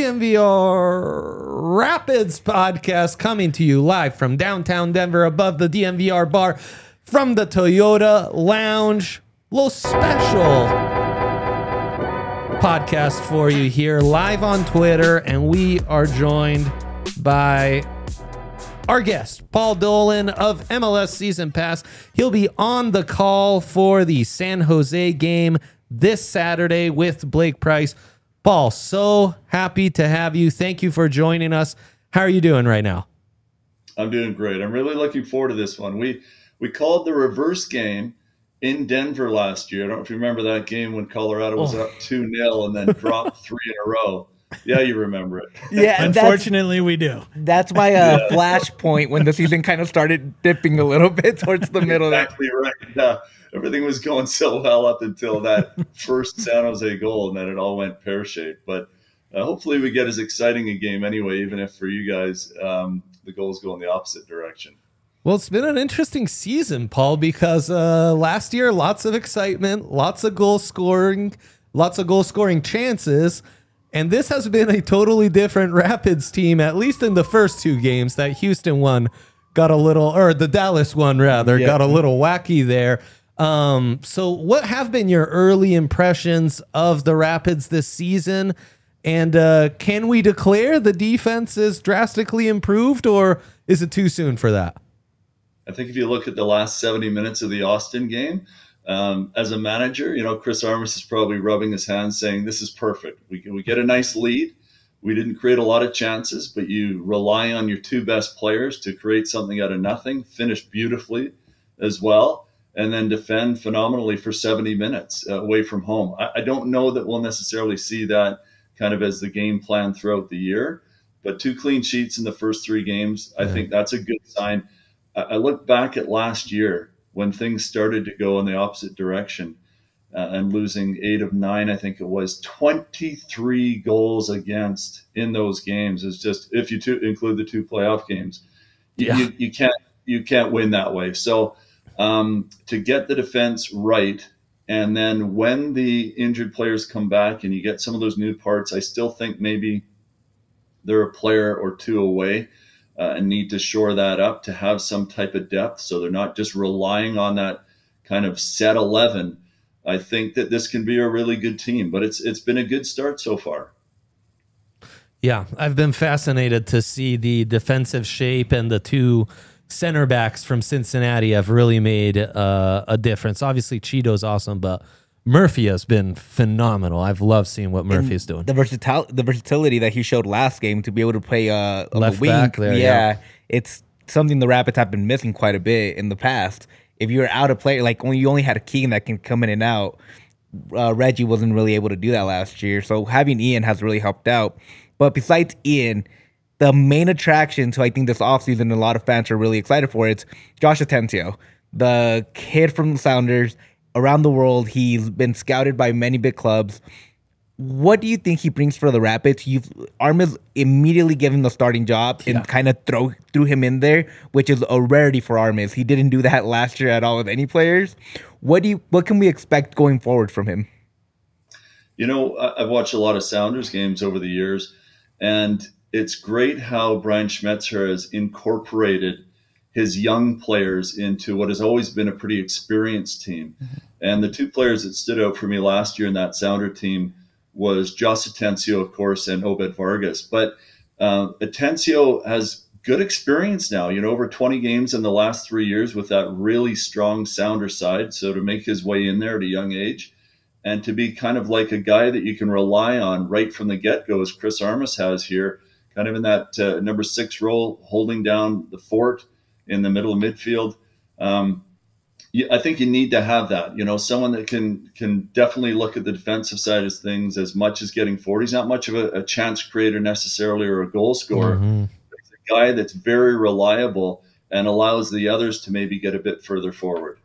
DNVR Rapids podcast coming to you live from downtown Denver above the DNVR bar from the Toyota Lounge. Little special podcast for you here live on Twitter, and we are joined by our guest, Paul Dolan of MLS Season Pass. He'll be on the call for the San Jose game this Saturday with Blake Price. Paul, so happy to have you. Thank you for joining us. How are you doing right now? I'm doing great. I'm really looking forward to this one. We called the reverse game in Denver last year. I don't know if you remember that game when Colorado was up 2-0 and then dropped 3 in a row. Yeah, you remember it. Yeah, unfortunately, we do. That's my flashpoint when the season kind of started dipping a little bit towards the middle. Exactly right. Everything was going so well up until that first San Jose goal, and then it all went pear-shaped. But hopefully we get as exciting a game anyway, even if for you guys the goals go in the opposite direction. Well, it's been an interesting season, Paul, because last year, lots of excitement, lots of goal scoring chances. And this has been a totally different Rapids team, at least in the first two games. That Houston one got a little, or the Dallas one rather, got a little wacky there. So what have been your early impressions of the Rapids this season? And can we declare the defense is drastically improved, or is it too soon for that? I think if you look at the last 70 minutes of the Austin game, as a manager, Chris Armas is probably rubbing his hands saying, this is perfect. We get a nice lead. We didn't create a lot of chances, but you rely on your two best players to create something out of nothing, finish beautifully as well, and then defend phenomenally for 70 minutes away from home. I don't know that we'll necessarily see that kind of as the game plan throughout the year, but 2 clean sheets in the first 3 games, I think that's a good sign. I look back at last year when things started to go in the opposite direction and losing 8 of 9, I think it was 23 goals against in those games. It's just, if you include the 2 playoff games, you can't win that way. So to get the defense right, and then when the injured players come back and you get some of those new parts, I still think maybe they're a player or 2 away. And need to shore that up to have some type of depth so they're not just relying on that kind of set 11. I think that this can be a really good team, but it's been a good start so far. Yeah, I've been fascinated to see the defensive shape, and the 2 center backs from Cincinnati have really made a difference. Obviously, Cheeto's awesome, but Murphy has been phenomenal. I've loved seeing what Murphy is doing. The versatility that he showed last game to be able to play on left the wing. Back there, it's something the Rapids have been missing quite a bit in the past. If you're out of player, like when you only had a Keegan that can come in and out, Reggie wasn't really able to do that last year. So having Ian has really helped out. But besides Ian, the main attraction to I think this offseason a lot of fans are really excited for, it's Josh Atencio, the kid from the Sounders. Around the world, he's been scouted by many big clubs. What do you think he brings for the Rapids? Armas immediately gave him the starting job and kind of threw him in there, which is a rarity for Armas. He didn't do that last year at all with any players. What can we expect going forward from him? I've watched a lot of Sounders games over the years, and it's great how Brian Schmetzer has incorporated his young players into what has always been a pretty experienced team. Mm-hmm. And the 2 players that stood out for me last year in that Sounder team was Josh Atencio, of course, and Obed Vargas. But Atencio has good experience now, over 20 games in the last 3 years with that really strong Sounder side. So to make his way in there at a young age and to be kind of like a guy that you can rely on right from the get-go, as Chris Armas has here, kind of in that number 6 role, holding down the fort in the middle of midfield. I think you need to have that, someone that can definitely look at the defensive side of things as much as getting forward. He's not much of a chance creator necessarily or a goal scorer. Mm-hmm. He's a guy that's very reliable and allows the others to maybe get a bit further forward.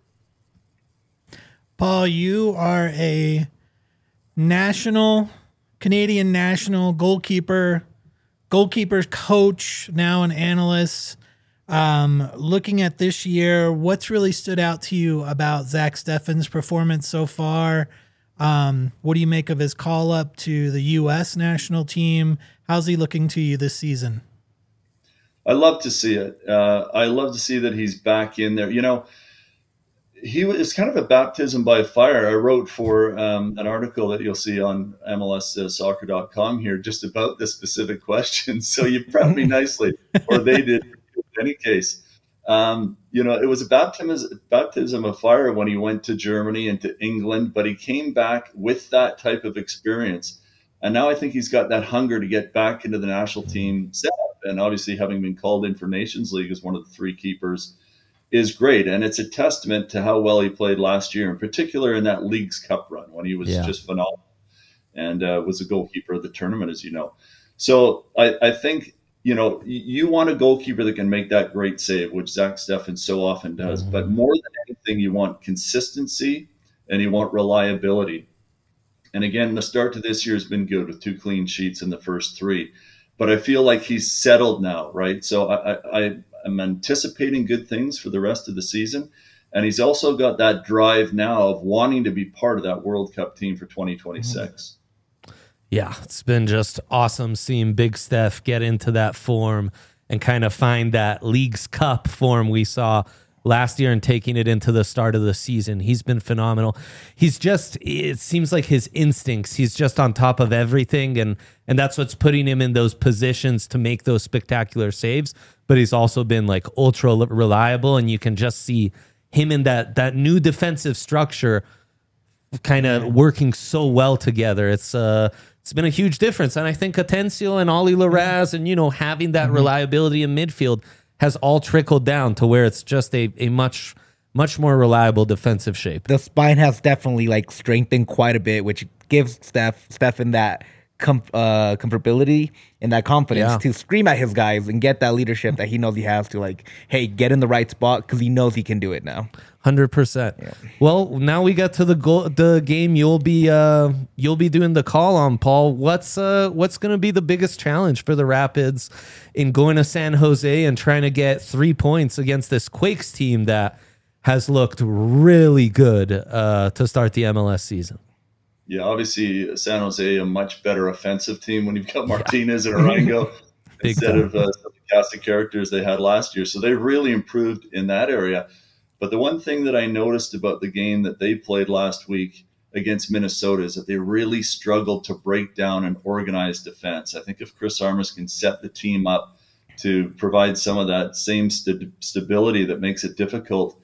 Paul, you are a Canadian national goalkeepers coach, now an analyst. Looking at this year, what's really stood out to you about Zach Steffen's performance so far? What do you make of his call up to the U.S. national team? How's he looking to you this season? I love to see it. I love to see that he's back in there. He was kind of a baptism by fire. I wrote for an article that you'll see on MLSsoccer.com here just about this specific question. So you prepped me nicely, or they did in any case. It was a baptism of fire when he went to Germany and to England, but he came back with that type of experience. And now I think he's got that hunger to get back into the national team setup. And obviously having been called in for Nations League as one of the three keepers is great. And it's a testament to how well he played last year, in particular in that Leagues Cup run when he was just phenomenal and was a goalkeeper of the tournament, as you know. So I think, you want a goalkeeper that can make that great save, which Zach Steffen so often does. Mm-hmm. But more than anything, you want consistency and you want reliability. And again, the start to this year has been good with 2 clean sheets in the first 3. But I feel like he's settled now, right? So I'm anticipating good things for the rest of the season. And he's also got that drive now of wanting to be part of that World Cup team for 2026. Yeah, it's been just awesome seeing Big Steph get into that form and kind of find that Leagues Cup form we saw last year and taking it into the start of the season. He's been phenomenal. It seems like his instincts, he's just on top of everything, and that's what's putting him in those positions to make those spectacular saves. But he's also been like ultra reliable, and you can just see him in that new defensive structure kind of working so well together. It's been a huge difference. And I think Atencio and Ollie Larraz and, having that reliability in midfield has all trickled down to where it's just a much, much more reliable defensive shape. The spine has definitely strengthened quite a bit, which gives Steffen that comfortability and that confidence to scream at his guys and get that leadership that he knows he has to hey, get in the right spot because he knows he can do it now. 100%. Yeah. Well, now we got to the game you'll be doing the call on, Paul. What's going to be the biggest challenge for the Rapids in going to San Jose and trying to get 3 points against this Quakes team that has looked really good to start the MLS season? Yeah, obviously San Jose, a much better offensive team when you've got Martinez and Arango instead of the cast of characters they had last year. So they've really improved in that area. But the one thing that I noticed about the game that they played last week against Minnesota is that they really struggled to break down an organized defense. I think if Chris Armas can set the team up to provide some of that same stability that makes it difficult,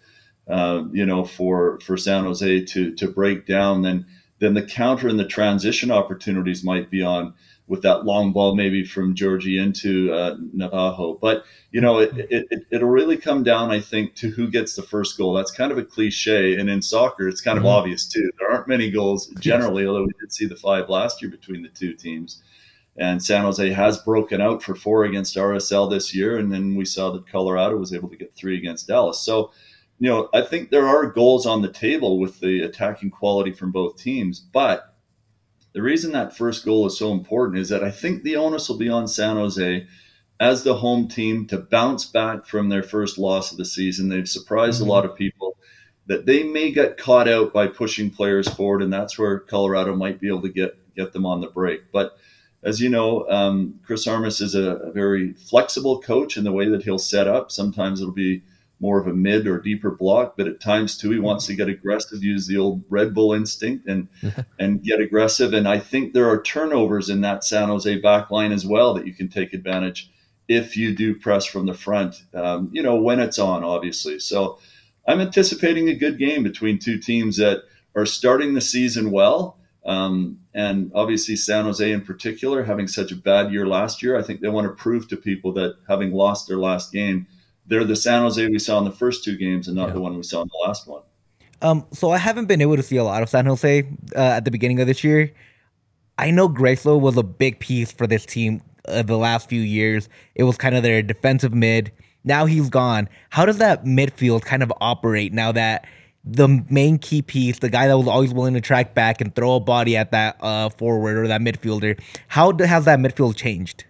for San Jose to break down, then the counter and the transition opportunities might be on with that long ball, maybe from Georgie into Navajo. But, it'll really come down, I think, to who gets the first goal. That's kind of a cliche. And in soccer, it's kind of obvious, too. There aren't many goals generally, although we did see the 5 last year between the two teams. And San Jose has broken out for 4 against RSL this year. And then we saw that Colorado was able to get 3 against Dallas. So, I think there are goals on the table with the attacking quality from both teams. But the reason that first goal is so important is that I think the onus will be on San Jose as the home team to bounce back from their first loss of the season. They've surprised a lot of people that they may get caught out by pushing players forward, and that's where Colorado might be able to get them on the break. But as you know, Chris Armas is a very flexible coach in the way that he'll set up. Sometimes it'll be more of a mid or deeper block, but at times too, he wants to get aggressive, use the old Red Bull instinct and get aggressive. And I think there are turnovers in that San Jose back line as well that you can take advantage if you do press from the front, when it's on, obviously. So I'm anticipating a good game between two teams that are starting the season well. And obviously San Jose in particular, having such a bad year last year, I think they want to prove to people that having lost their last game, they're the San Jose we saw in the first 2 games and not the one we saw in the last one. So I haven't been able to see a lot of San Jose at the beginning of this year. I know Grayso was a big piece for this team the last few years. It was kind of their defensive mid. Now he's gone. How does that midfield kind of operate now that the main key piece, the guy that was always willing to track back and throw a body at that forward or that midfielder, how has that midfield changed?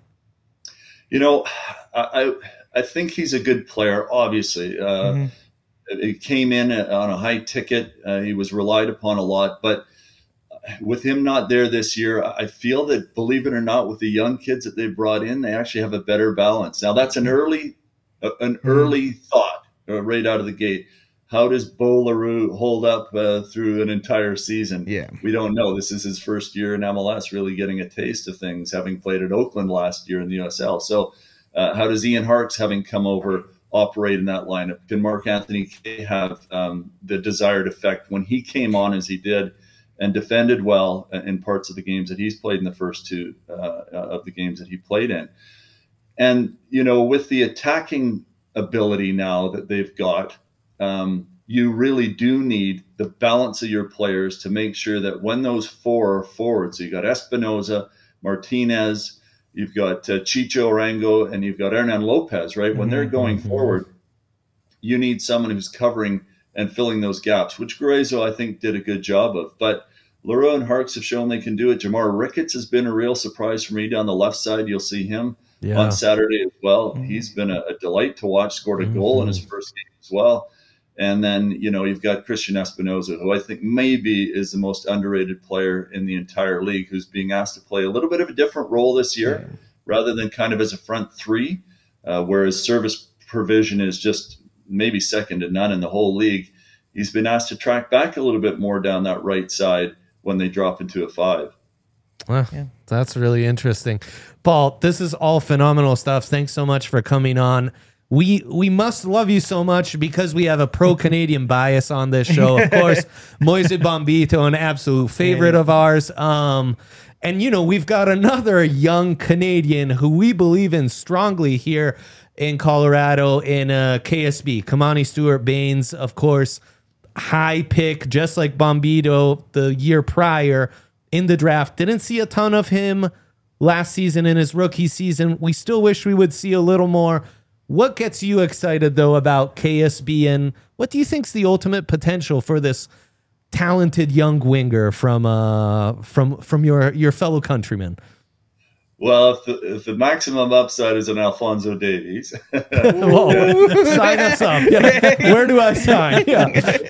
I think he's a good player, obviously. He came in on a high ticket. He was relied upon a lot. But with him not there this year, I feel that, believe it or not, with the young kids that they've brought in, they actually have a better balance. Now, that's an early thought right out of the gate. How does Bo LaRue hold up through an entire season? Yeah. We don't know. This is his first year in MLS, really getting a taste of things, having played at Oakland last year in the USL. So how does Ian Harkes, having come over, operate in that lineup? Can Mark-Anthony Kaye have the desired effect when he came on as he did and defended well in parts of the games that he's played in the first two of the games that he played in? And, with the attacking ability now that they've got, you really do need the balance of your players to make sure that when those four are forward, so you got Espinoza, Martinez, you've got Chicho Arango, and you've got Hernan Lopez, right? When they're going forward, you need someone who's covering and filling those gaps, which Gruezo, I think, did a good job of. But Leroux and Harkes have shown they can do it. Jamar Ricketts has been a real surprise for me down the left side. You'll see him on Saturday as well. He's been a delight to watch, scored a goal in his first game as well. And then, you've got Christian Espinoza, who I think maybe is the most underrated player in the entire league, who's being asked to play a little bit of a different role this year, rather than kind of as a front three, where his service provision is just maybe second to none in the whole league. He's been asked to track back a little bit more down that right side when they drop into a five. Well, that's really interesting. Paul, this is all phenomenal stuff. Thanks so much for coming on. We must love you so much because we have a pro-Canadian bias on this show. Of course, Moise Bombito, an absolute favorite of ours. And, we've got another young Canadian who we believe in strongly here in Colorado in KSB. Kamani Stewart-Baines, of course, high pick, just like Bombito the year prior in the draft. Didn't see a ton of him last season in his rookie season. We still wish we would see a little more. What gets you excited, though, about KSB, and what do you think's the ultimate potential for this talented young winger from your fellow countrymen? Well, if the maximum upside is an Alphonso Davies, whoa, sign us up. Yeah. Where do I sign? Yeah.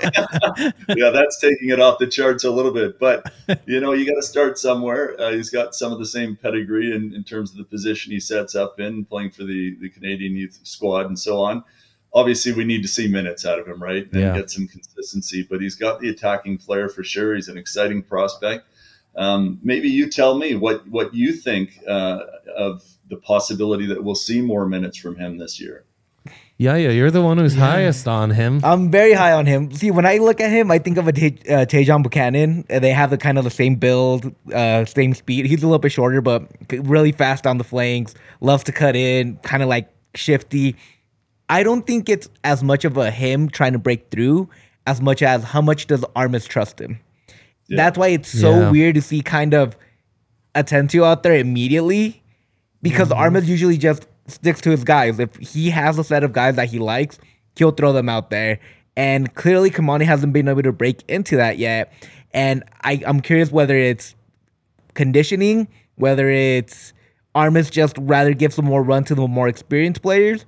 Yeah, that's taking it off the charts a little bit. But, you got to start somewhere. He's got some of the same pedigree in terms of the position he sets up in, playing for the Canadian youth squad and so on. Obviously, we need to see minutes out of him, right? And get some consistency. But he's got the attacking flair for sure. He's an exciting prospect. Maybe you tell me what you think of the possibility that we'll see more minutes from him this year. Yeah, you're the one who's highest on him. I'm very high on him. See, when I look at him, I think of a Tajon Buchanan. They have the same build, same speed. He's a little bit shorter, but really fast on the flanks. Loves to cut in, kind of like shifty. I don't think it's as much of a him trying to break through as much as how much does Armas trust him. Yeah. That's why it's so weird to see kind of Atencio out there immediately, because Armas usually just sticks to his guys. If he has a set of guys that he likes, he'll throw them out there. And clearly Kamani hasn't been able to break into that yet. And I'm curious whether it's conditioning, whether it's Armas just rather give some more run to the more experienced players.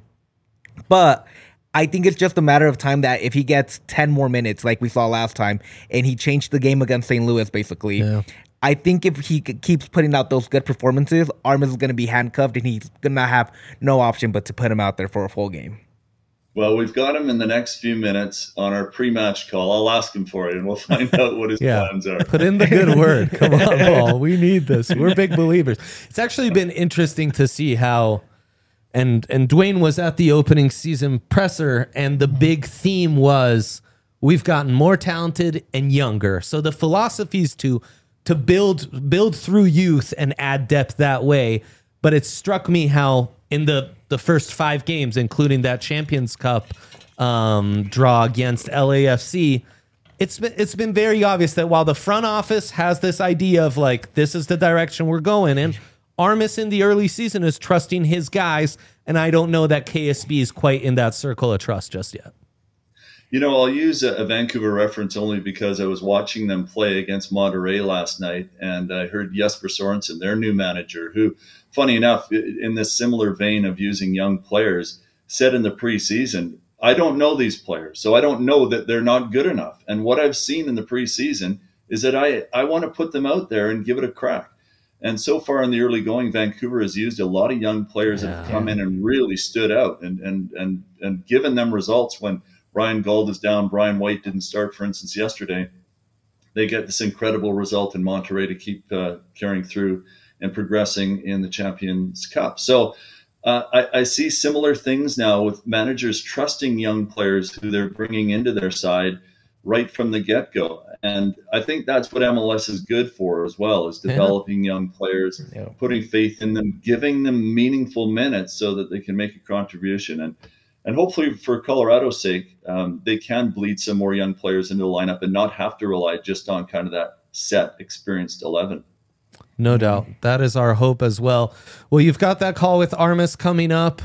But I think it's just a matter of time that if he gets 10 more minutes like we saw last time, and he changed the game against St. Louis basically, I think if he keeps putting out those good performances, Armas is going to be handcuffed and he's going to have no option but to put him out there for a full game. Well, we've got him in the next few minutes on our pre-match call. I'll ask him for it, and we'll find out what his plans are. Put in the good word. Come on, Paul. We need this. We're big believers. It's actually been interesting to see how, and Dwayne was at the opening season presser, and the big theme was we've gotten more talented and younger. So the philosophy is to build through youth and add depth that way. But it struck me how in the first 5 games, including that Champions Cup draw against LAFC, it's been very obvious that while the front office has this idea of like, this is the direction we're going in, Armas in the early season is trusting his guys, and I don't know that KSB is quite in that circle of trust just yet. You know, I'll use a Vancouver reference only because I was watching them play against Monterrey last night, and I heard Jesper Sorensen, their new manager, who, funny enough, in this similar vein of using young players, said in the preseason, I don't know these players, so I don't know that they're not good enough. And what I've seen in the preseason is that I want to put them out there and give it a crack. And so far in the early going, Vancouver has used a lot of young players that have come in and really stood out and given them results. When Ryan Gauld is down, Brian White didn't start, for instance, yesterday. They get this incredible result in Monterrey to keep carrying through and progressing in the Champions Cup. So I see similar things now with managers trusting young players who they're bringing into their side right from the get-go. And I think that's what MLS is good for as well, is developing young players, putting faith in them, giving them meaningful minutes so that they can make a contribution. And hopefully for Colorado's sake, they can bleed some more young players into the lineup and not have to rely just on kind of that set, experienced 11. No doubt. That is our hope as well. Well, you've got that call with Armas coming up.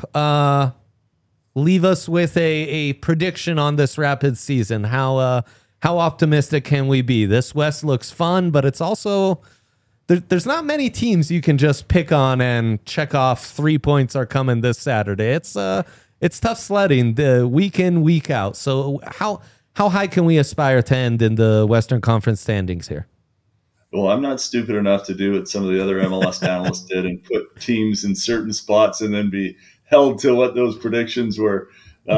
Leave us with a prediction on this Rapids season. How optimistic can we be? This West looks fun, but it's also there's not many teams you can just pick on and check off 3 points are coming this Saturday. It's tough sledding the week in, week out. So how high can we aspire to end in the Western Conference standings here? Well, I'm not stupid enough to do what some of the other MLS analysts did and put teams in certain spots and then be held to what those predictions were.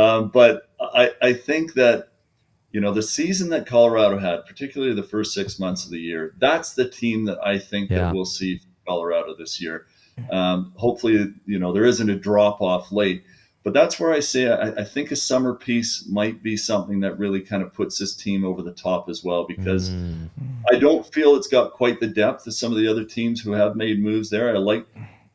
But I think that, the season that Colorado had, particularly the first 6 months of the year, that's the team that I think that we'll see from Colorado this year. Hopefully, there isn't a drop off late. But that's where I say I think a summer piece might be something that really kind of puts this team over the top as well, because I don't feel it's got quite the depth as some of the other teams who have made moves there. I like,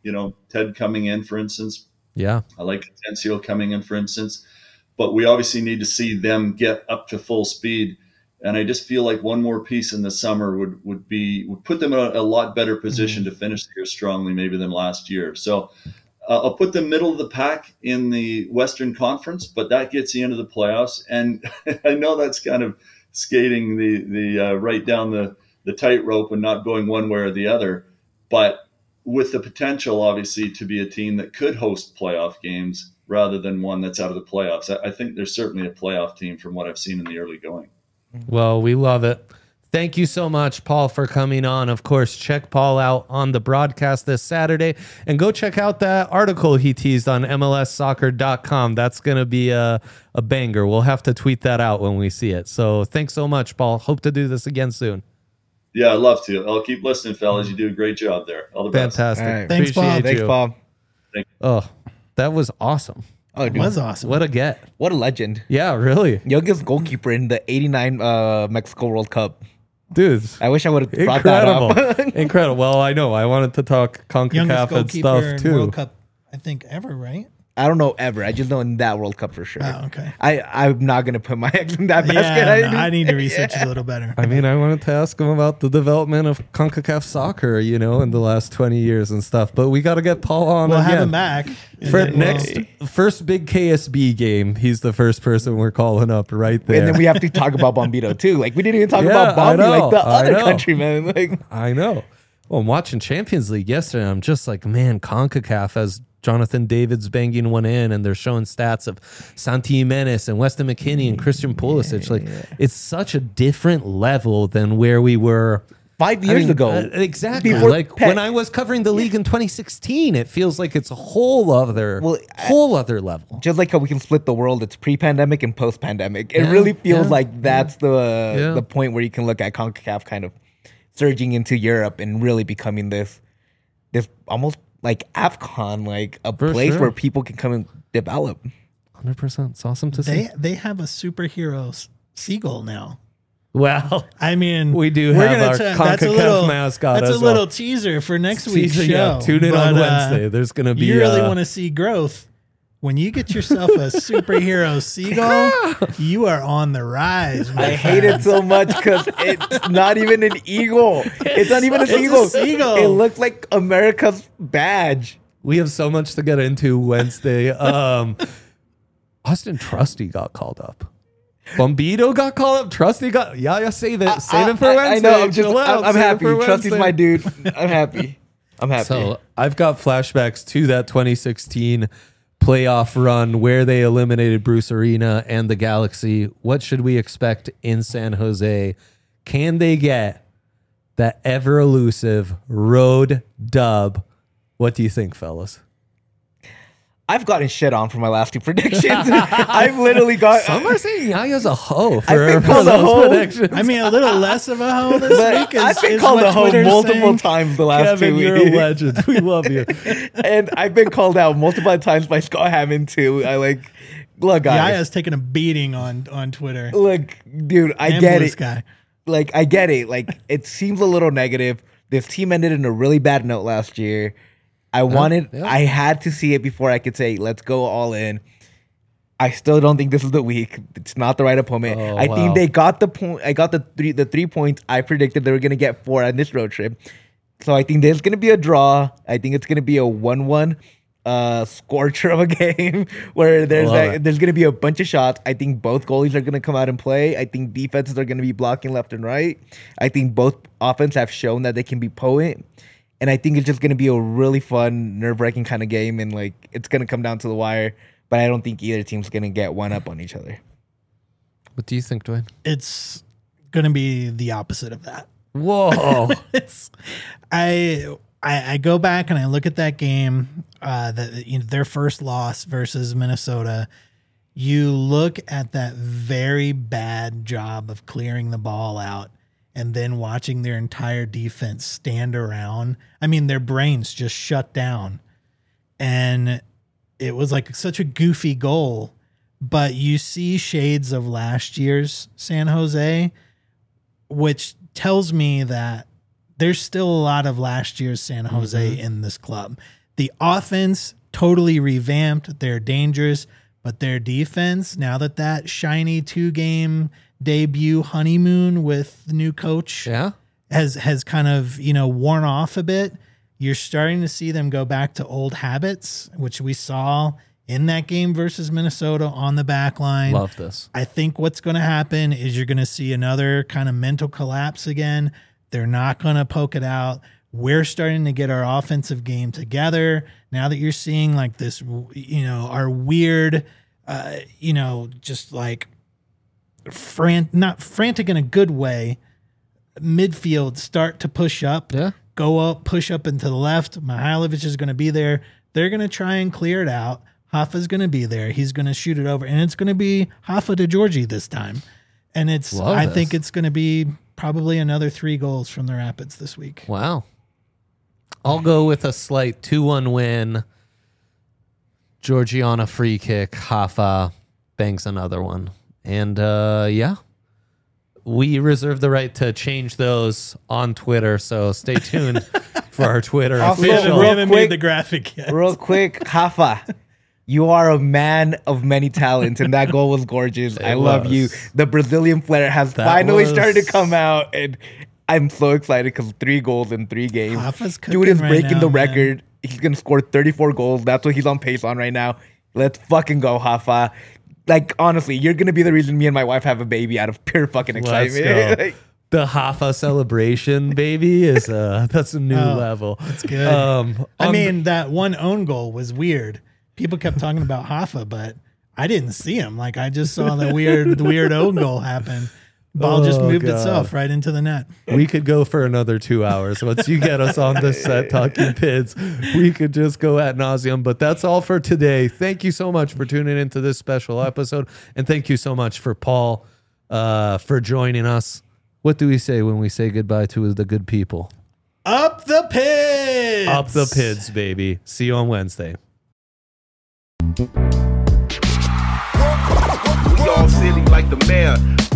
Ted coming in, for instance. Yeah. I like Atencio coming in, for instance. But we obviously need to see them get up to full speed. And I just feel like one more piece in the summer would put them in a lot better position to finish the year strongly maybe than last year. So I'll put them middle of the pack in the Western Conference, but that gets you into the playoffs. And I know that's kind of skating the right down the tightrope and not going one way or the other, but with the potential, obviously, to be a team that could host playoff games rather than one that's out of the playoffs. I think there's certainly a playoff team from what I've seen in the early going. Well, we love it. Thank you so much, Paul, for coming on. Of course, check Paul out on the broadcast this Saturday, and go check out that article he teased on MLSsoccer.com. That's going to be a banger. We'll have to tweet that out when we see it. So thanks so much, Paul. Hope to do this again soon. Yeah, I'd love to. I'll keep listening, fellas. You do a great job there. All the best. Fantastic. Right. Thanks, Paul. Thanks, Paul. Oh, that was awesome. Oh, dude. It was awesome. What a get. What a legend. Yeah, really. Youngest goalkeeper in the 89 Mexico World Cup. Dude, I wish I would have brought that up. Incredible. Well, I know. I wanted to talk CONCACAF and stuff too. World Cup, I think, ever, right? I don't know ever. I just know in that World Cup for sure. Oh, okay. I'm not going to put my eggs in that basket. Yeah, I need to research a little better. I mean, I wanted to ask him about the development of CONCACAF soccer, in the last 20 years and stuff. But we got to get Paul on We'll again. have him back. First big KSB game, he's the first person we're calling up right there. And then we have to talk about Bombito too. Like, we didn't even talk about Bombi, like the other country, man. Like, I know. Well, I'm watching Champions League yesterday, and I'm just like, man, CONCACAF has Jonathan David's banging one in, and they're showing stats of Santi Jimenez and Weston McKennie and Christian Pulisic. It's such a different level than where we were 5 years ago. Exactly. When I was covering the league in 2016, it feels like it's a whole other level. Just like how we can split the world, it's pre-pandemic and post-pandemic. It really feels like that's the point where you can look at CONCACAF kind of surging into Europe and really becoming this almost like AFCON, like a place where people can come and develop. 100%. It's awesome to see. They have a superhero seagull now. Well, I mean, we do have our CONCACAF mascot. That's a little teaser for next week's show. Yeah, tune in on Wednesday. There's going to be. You really want to see growth. When you get yourself a superhero seagull, you are on the rise. I hate it so much because it's not even an eagle. It's not even a seagull. It looks like America's badge. We have so much to get into Wednesday. Austin Trusty got called up. Bombito got called up. Trusty got. Yeah, save it. Save it for Wednesday. I know. I'm happy. Trusty's my dude. I'm happy. So I've got flashbacks to that 2016 playoff run where they eliminated Bruce Arena and the Galaxy. What should we expect in San Jose? Can they get that ever elusive road dub. What do you think, fellas? I've gotten shit on for my last two predictions. I've literally got. Some are saying Yaya's a hoe I've for been for called a those hoe. predictions. I mean, a little less of a hoe this week. I've been is called what a hoe Twitter's multiple saying. times the last Kevin, 2 you're weeks. a legend. We love you. And I've been called out multiple times by Scott Hammond too. Look, guys. Yaya's taking a beating on Twitter. Look, dude, I And get Blue it. Sky. I get it. It seems a little negative. This team ended in a really bad note last year. I had to see it before I could say, let's go all in. I still don't think this is the week. It's not the right opponent. Oh, I wow. think they got the point. I got the 3 points I predicted they were going to get 4 on this road trip. So I think there's going to be a draw. I think it's going to be a 1-1 scorcher of a game where there's going to be a bunch of shots. I think both goalies are going to come out and play. I think defenses are going to be blocking left and right. I think both offense have shown that they can be potent. And I think it's just going to be a really fun, nerve-wracking kind of game. And it's going to come down to the wire. But I don't think either team's going to get one up on each other. What do you think, Dwayne? It's going to be the opposite of that. Whoa. I go back and I look at that game, their first loss versus Minnesota. You look at that very bad job of clearing the ball out and then watching their entire defense stand around. I mean, their brains just shut down. And it was such a goofy goal, but you see shades of last year's San Jose, which tells me that there's still a lot of last year's San Jose in this club. The offense totally revamped. They're dangerous, but their defense, now that shiny 2-game debut honeymoon with the new coach has kind of, worn off a bit, you're starting to see them go back to old habits, which we saw in that game versus Minnesota on the back line. Love this. I think what's going to happen is you're going to see another kind of mental collapse again. They're not going to poke it out. We're starting to get our offensive game together. Now that you're seeing this, our weird, just not frantic in a good way, midfield start to push up, go up, push up into the left. Mihailovic is going to be there. They're going to try and clear it out. Hoffa's going to be there. He's going to shoot it over, and it's going to be Hoffa to Georgie this time. And I think it's going to be probably another 3 goals from the Rapids this week. Wow. I'll go with a slight 2-1 win. Georgie on a free kick. Hoffa bangs another one. And we reserve the right to change those on Twitter, so stay tuned for our Twitter official. We haven't made the graphic yet. Real quick, Hoffa, you are a man of many talents, and that goal was gorgeous. I love you. The Brazilian flair has finally started to come out, and I'm so excited because 3 goals in 3 games. Hoffa's cooking Dude is right breaking now, the man. record. He's going to score 34 goals. That's what he's on pace on right now. Let's fucking go, Hoffa. Honestly, you're going to be the reason me and my wife have a baby out of pure fucking excitement. Let's go. The Hoffa celebration, baby, is that's a new level. That's good. That one own goal was weird. People kept talking about Hoffa, but I didn't see him. I just saw the weird own goal happen. Ball just moved itself right into the net. We could go for another 2 hours. Once you get us on this set talking Pids, we could just go ad nauseum. But that's all for today. Thank you so much for tuning into this special episode. And thank you so much for Paul for joining us. What do we say when we say goodbye to the good people? Up the Pids! Up the Pids, baby. See you on Wednesday. We all silly like the mayor.